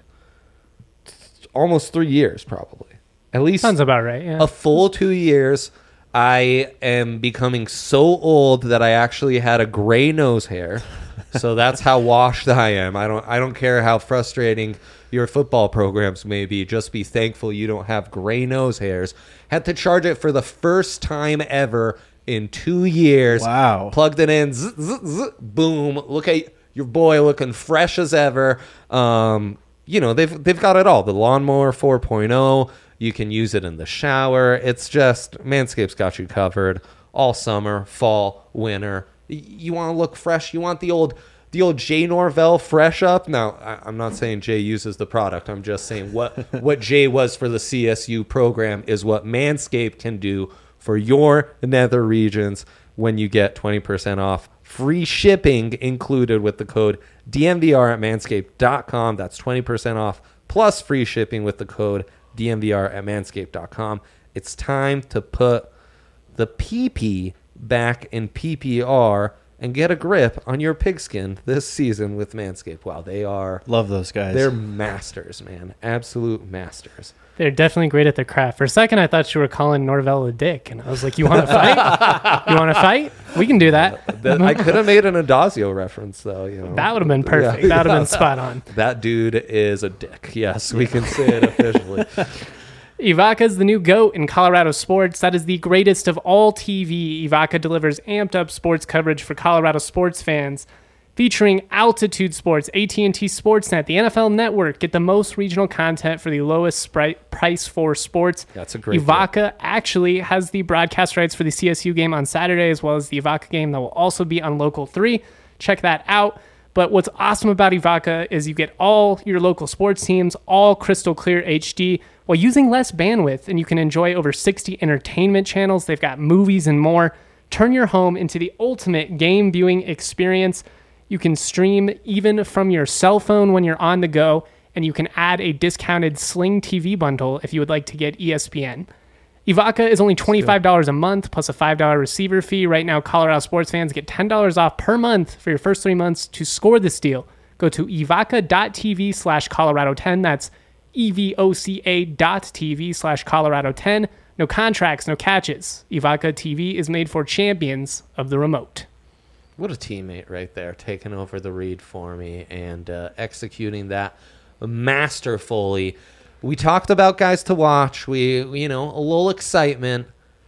Almost three years, probably. At least sounds about right, yeah. A full two years. I am becoming so old that I actually had a gray nose hair. So that's how washed I am. I don't I don't care how frustrating your football programs may be. Just be thankful you don't have gray nose hairs. Had to charge it for the first time ever in two years. Wow. Plugged it in. Zzz, zzz, zzz, boom. Look at your boy looking fresh as ever. Um, you know, they've they've got it all. The Lawnmower four point oh. You can use it in the shower. It's just, Manscaped's got you covered all summer, fall, winter. You want to look fresh. You want the old the old Jay Norvell fresh up. Now, I, I'm not saying Jay uses the product. I'm just saying what, what Jay was for the C S U program is what Manscaped can do for your nether regions when you get twenty percent off. Free shipping included with the code D M V R at manscaped dot com. That's twenty percent off plus free shipping with the code D M V R at manscaped dot com. It's time to put the P P back in P P R and get a grip on your pigskin this season with Manscaped. Wow, they are... Love those guys. They're masters, man. Absolute masters. They're definitely great at their craft. For a second, I thought you were calling Norvell a dick, and I was like, you want to fight? You want to fight? We can do that. Uh, that I could have made an Adazio reference, though. You know. That would have been perfect. Yeah. That would have been spot on. That dude is a dick. Yes, we can say it officially. Ivaka's the new GOAT in Colorado sports. That is the greatest of all T V. Ivaka delivers amped up sports coverage for Colorado sports fans. featuring Altitude Sports, A T and T Sportsnet, the N F L Network. Get the most regional content for the lowest spri- price for sports. That's a great Evoca deal. actually has the broadcast rights for the C S U game on Saturday, as well as the Evoca game that will also be on Local three. Check that out. But what's awesome about Evoca is you get all your local sports teams, all crystal clear H D, while using less bandwidth, and you can enjoy over sixty entertainment channels. They've got movies and more. Turn your home into the ultimate game viewing experience. You can stream even from your cell phone when you're on the go, and you can add a discounted Sling T V bundle if you would like to get E S P N. Evoca is only twenty-five dollars a month plus a five dollars receiver fee. Right now, Colorado sports fans get ten dollars off per month for your first three months. To score this deal, go to evoca.tv slash Colorado 10. That's E-V-O-C-A dot TV slash Colorado 10. No contracts, no catches. Evoca T V is made for champions of the remote. What a teammate right there, taking over the read for me and uh, executing that masterfully. We talked about guys to watch. We, you know, a little excitement.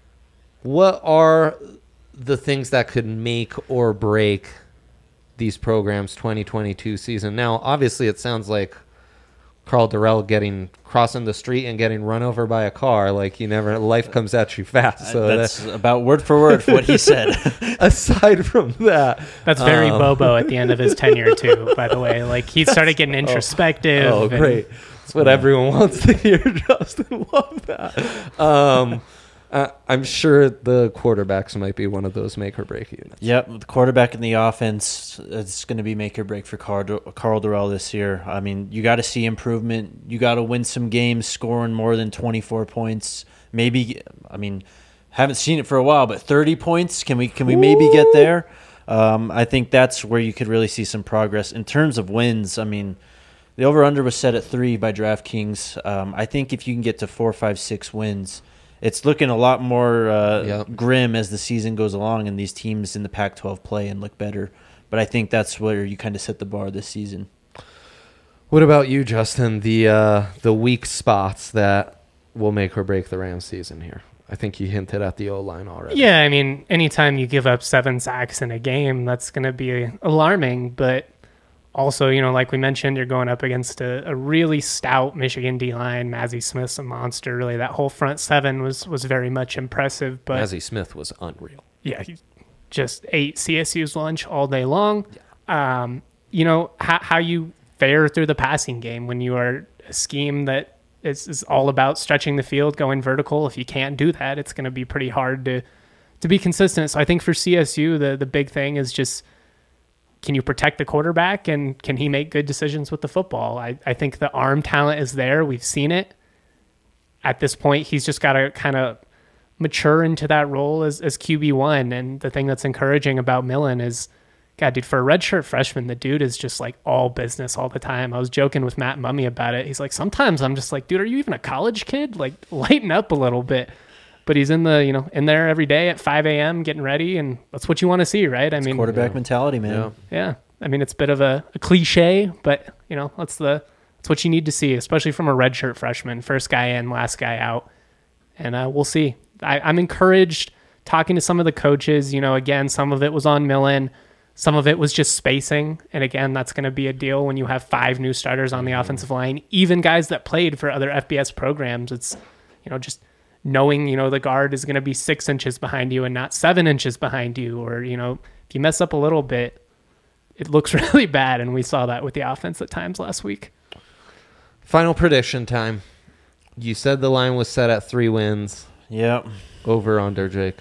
What are the things that could make or break these programs' twenty twenty-two season? Now, obviously, it sounds like Carl Durrell getting crossing the street and getting run over by a car. Like, you never, life comes at you fast. So that's that, about word for word what he said. aside from that, That's very um, Bobo at the end of his tenure too, by the way. Like, he started getting introspective. Oh, and- great. That's what everyone wants to hear, Justin. Love that. Um, uh, I'm sure the quarterbacks might be one of those make or break units. Yep, the quarterback in the offense, it's going to be make or break for Carl, Carl Durrell this year. I mean, you got to see improvement. You got to win some games scoring more than twenty-four points. Maybe, I mean, haven't seen it for a while, but thirty points, can we can we maybe get there? Um, I think that's where you could really see some progress. In terms of wins, I mean, the over-under was set at three by DraftKings. Um, I think if you can get to four, five, six wins, it's looking a lot more uh, Yep. grim as the season goes along and these teams in the Pac twelve play and look better. But I think that's where you kind of set the bar this season. What about you, Justin? The uh, the weak spots that will make or break the Rams season here. I think you hinted at the O-line already. Yeah, I mean, anytime you give up seven sacks in a game, that's going to be alarming. But also, you know, like we mentioned, you're going up against a, a really stout Michigan D-line. Mazi Smith's a monster. Really, that whole front seven was was very much impressive. But Mazi Smith was unreal. yeah, he just ate C S U's lunch all day long. Yeah. Um, you know, how, how you fare through the passing game when you are a scheme that is, is all about stretching the field, going vertical. If you can't do that, it's going to be pretty hard to to be consistent. So I think for C S U, the the big thing is just, can you protect the quarterback and can he make good decisions with the football? I, I think the arm talent is there. We've seen it. At this point, he's just got to kind of mature into that role as, as Q B one. And the thing that's encouraging about Millen is, God, dude, for a redshirt freshman, the dude is just like all business all the time. I was joking with Matt Mummy about it. He's like, sometimes I'm just like, dude, are you even a college kid? Like, lighten up a little bit. But he's in the, you know, in there every day at five a.m. getting ready, and that's what you want to see, right? I It's mean, quarterback yeah. mentality, man. Yeah. yeah. I mean, it's a bit of a, a cliche, but you know, that's the that's what you need to see, especially from a redshirt freshman, first guy in, last guy out, and uh, we'll see. I, I'm encouraged talking to some of the coaches. You know, again, some of it was on Millen, some of it was just spacing, and again, that's going to be a deal when you have five new starters on the offensive line, even guys that played for other F B S programs. It's, you know, just knowing, you know, the guard is going to be six inches behind you and not seven inches behind you, or, you know, if you mess up a little bit, it looks really bad. And we saw that with the offense at times last week. Final prediction time. You said the line was set at three wins. Yep. Over, under, Jake.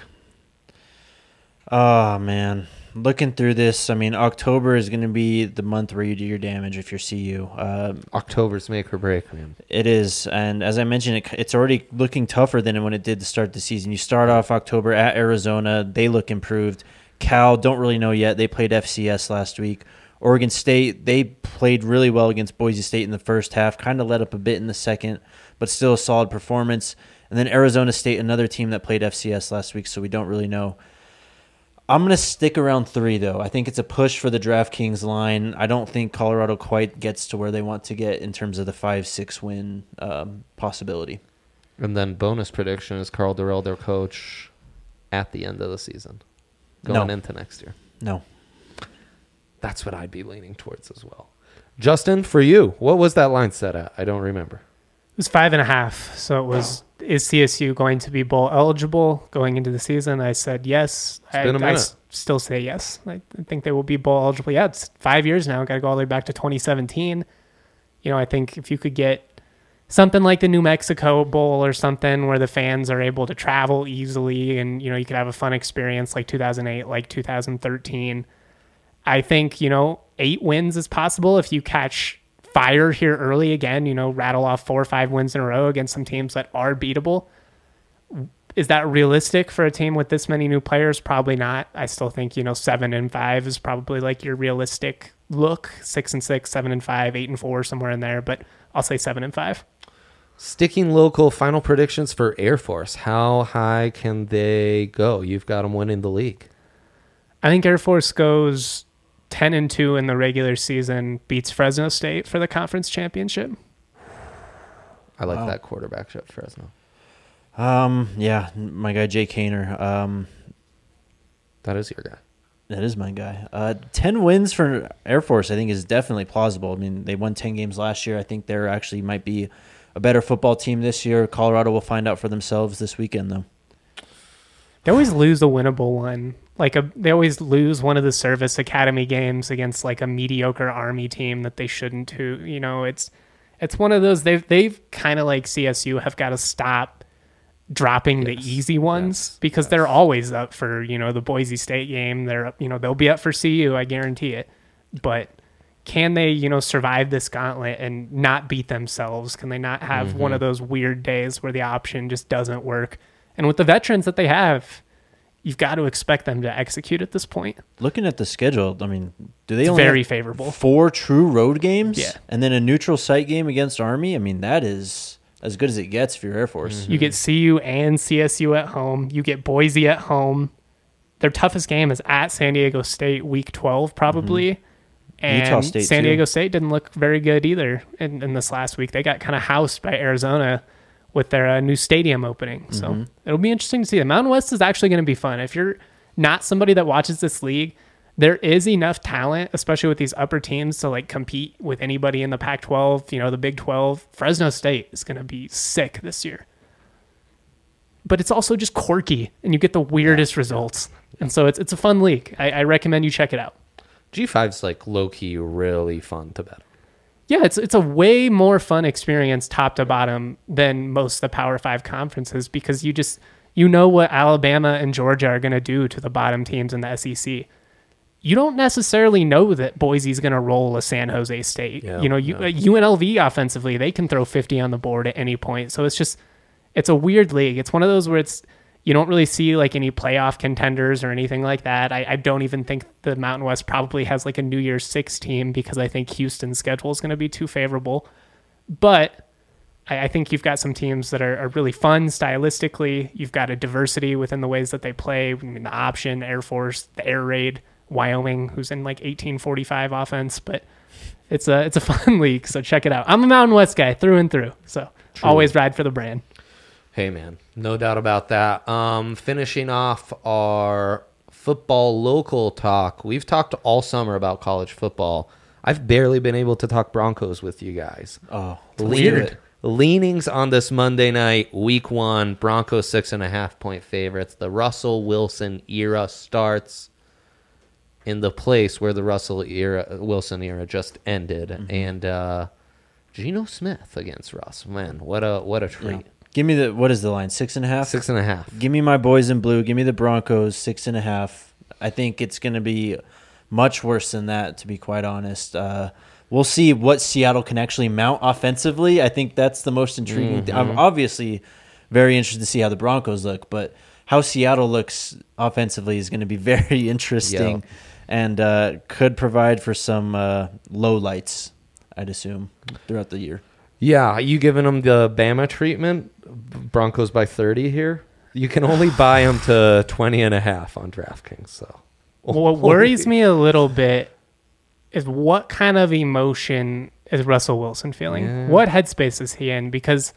Oh, man. Looking through this, I mean, October is going to be the month where you do your damage if you're C U. Uh, October's make or break, man. It is, and as I mentioned, it, it's already looking tougher than when it did to start the season. You start off October at Arizona. They look improved. Cal, don't really know yet. They played F C S last week. Oregon State, they played really well against Boise State in the first half, kind of let up a bit in the second, but still a solid performance. And then Arizona State, another team that played F C S last week, so we don't really know. I'm going to stick around three, though. I think it's a push for the DraftKings line. I don't think Colorado quite gets to where they want to get in terms of the five six win um, possibility. And then bonus prediction is Carl Durrell, their coach, at the end of the season, going No. into next year. No. That's what I'd be leaning towards as well. Justin, for you, what was that line set at? I don't remember. It was five and a half. So it was, is C S U going to be bowl eligible going into the season? I said yes. It's been a I, I minute. s- still say yes. I, I think they will be bowl eligible. Yeah, it's five years now. Got to go all the way back to twenty seventeen. You know, I think if you could get something like the New Mexico Bowl or something where the fans are able to travel easily and, you know, you could have a fun experience like two thousand eight, like two thousand thirteen. I think, you know, eight wins is possible if you catch fire here early again, you know, rattle off four or five wins in a row against some teams that are beatable. Is that realistic for a team with this many new players? Probably not. I still think, you know, seven and five is probably like your realistic look. Six and six, seven and five, eight and four, somewhere in there. But I'll say seven and five. Sticking local, final predictions for Air Force. How high can they go? You've got them winning the league. I think Air Force goes ten and two in the regular season, beats Fresno State for the conference championship. I like Wow. that quarterback at Fresno. Um, yeah, my guy Jake Hayner. Um, That is your guy. that is my guy. Uh, ten wins for Air Force, I think, is definitely plausible. I mean, they won ten games last year. I think they're actually might be a better football team this year. Colorado will find out for themselves this weekend, though. They always lose a winnable one. Like a, they always lose one of the service academy games against like a mediocre Army team that they shouldn't. To you know, it's it's one of those they've they've kind of like C S U have got to stop dropping Yes. the easy ones Yes. because Yes. they're always up for, you know, the Boise State game. They're you know they'll be up for C U, I guarantee it. But can they, you know, survive this gauntlet and not beat themselves? Can they not have Mm-hmm. one of those weird days where the option just doesn't work? And with the veterans that they have, you've got to expect them to execute at this point. Looking at the schedule, I mean, do they It's only very have favorable. four true road games? Yeah. And then a neutral site game against Army? I mean, that is as good as it gets for your Air Force. You get C U and C S U at home. You get Boise at home. Their toughest game is at San Diego State, week twelve, probably. And Utah State, San too. Diego State didn't look very good either in, in this last week. They got kind of housed by Arizona with their uh, new stadium opening. So Mm-hmm. it'll be interesting to see. The Mountain West is actually going to be fun. If you're not somebody that watches this league, there is enough talent, especially with these upper teams, to like compete with anybody in the Pac twelve, you know, the Big twelve. Fresno State is going to be sick this year. But it's also just quirky, and you get the weirdest results. And so it's it's a fun league. I, I recommend you check it out. G five's like low-key really fun to bet. Yeah, it's it's a way more fun experience top to bottom than most of the Power Five conferences because you just you know what Alabama and Georgia are going to do to the bottom teams in the S E C. You don't necessarily know that Boise's going to roll a San Jose State. Yeah, you know, you, yeah. uh, U N L V offensively, they can throw fifty on the board at any point. So it's just it's a weird league. It's one of those where it's you don't really see like any playoff contenders or anything like that. I, I don't even think the Mountain West probably has like a New Year's Six team because I think Houston's schedule is going to be too favorable. But I, I think you've got some teams that are, are really fun stylistically. You've got a diversity within the ways that they play. I mean, the option, Air Force, the air raid, Wyoming, who's in like eighteen forty-five offense. But it's a it's a fun league, so check it out. I'm a Mountain West guy through and through, so True. always ride for the brand. Hey, man, no doubt about that. Um, finishing off our football local talk, we've talked all summer about college football. I've barely been able to talk Broncos with you guys. Oh, Lean- leanings on this Monday night, week one, Broncos six and a half point favorites. The Russell Wilson era starts in the place where the Russell era, Wilson era just ended. Mm-hmm. And uh, Geno Smith against Russ. Man, what a what a treat. Yeah. Give me the, what is the line? Six and a half? Six and a half. Give me my boys in blue. Give me the Broncos, six and a half. I think it's going to be much worse than that, to be quite honest. Uh, we'll see what Seattle can actually mount offensively. I think that's the most intriguing thing. I'm obviously very interested to see how the Broncos look, but how Seattle looks offensively is going to be very interesting Yeah. and uh, could provide for some uh, low lights, I'd assume, throughout the year. Yeah, you giving them the Bama treatment? Broncos by thirty here. You can only buy them to twenty and a half on DraftKings. So, What worries me a little bit is what kind of emotion is Russell Wilson feeling? Yeah. What headspace is he in? Because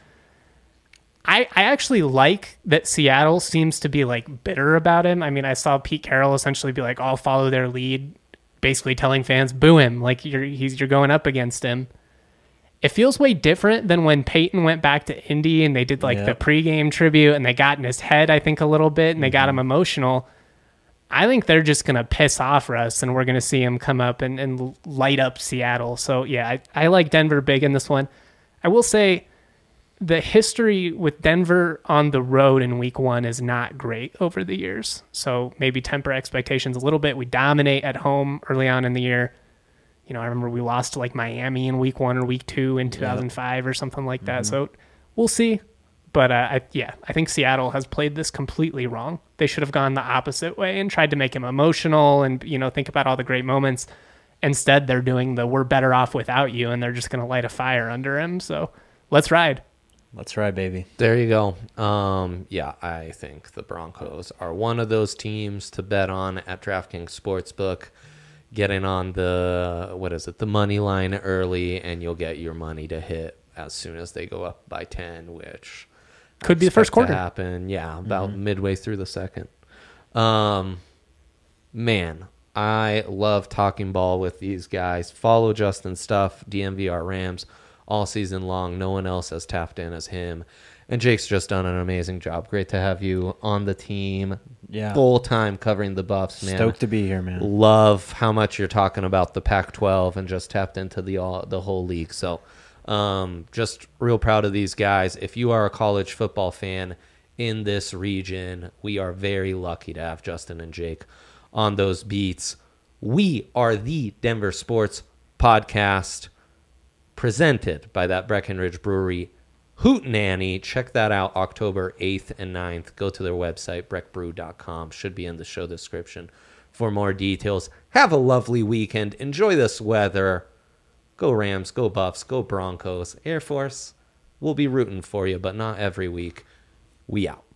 I I actually like that Seattle seems to be like bitter about him. I mean, I saw Pete Carroll essentially be like, I'll follow their lead basically telling fans, boo him, like you're he's you're going up against him. It feels way different than when Peyton went back to Indy and they did like Yep. the pregame tribute and they got in his head, I think, a little bit and they got him emotional. I think they're just going to piss off Russ and we're going to see him come up and, and light up Seattle. So, yeah, I, I like Denver big in this one. I will say the history with Denver on the road in week one is not great over the years. So maybe temper expectations a little bit. We dominate at home early on in the year. You know, I remember we lost to like Miami in week one or week two in two thousand five or something like that. Mm-hmm. So we'll see. But uh, I, yeah, I think Seattle has played this completely wrong. They should have gone the opposite way and tried to make him emotional and, you know, think about all the great moments. Instead, they're doing the we're better off without you, and they're just going to light a fire under him. So let's ride. Let's ride, baby. There you go. Um, yeah, I think the Broncos are one of those teams to bet on at DraftKings Sportsbook. Getting on the, what is it, the money line early, and you'll get your money to hit as soon as they go up by ten, which I Could be the first expect quarter. to happen. Yeah, about midway through the second. Um, man, I love talking ball with these guys. Follow Justin's stuff, D M V R Rams, all season long. No one else has tapped in as him. And Jake's just done an amazing job. Great to have you on the team. Yeah. Full time covering the Buffs, man. Stoked to be here, man. Love how much you're talking about the Pac twelve and just tapped into the all, the whole league. So um, just real proud of these guys. If you are a college football fan in this region, we are very lucky to have Justin and Jake on those beats. We are the Denver Sports Podcast, presented by that Breckenridge Brewery Hootenanny. Check that out October eighth and ninth. Go to their website, breck brew dot com. Should be in the show description for more details. Have a lovely weekend. Enjoy this weather. Go Rams, go Buffs, go Broncos. Air Force, we'll be rooting for you, but not every week. We out.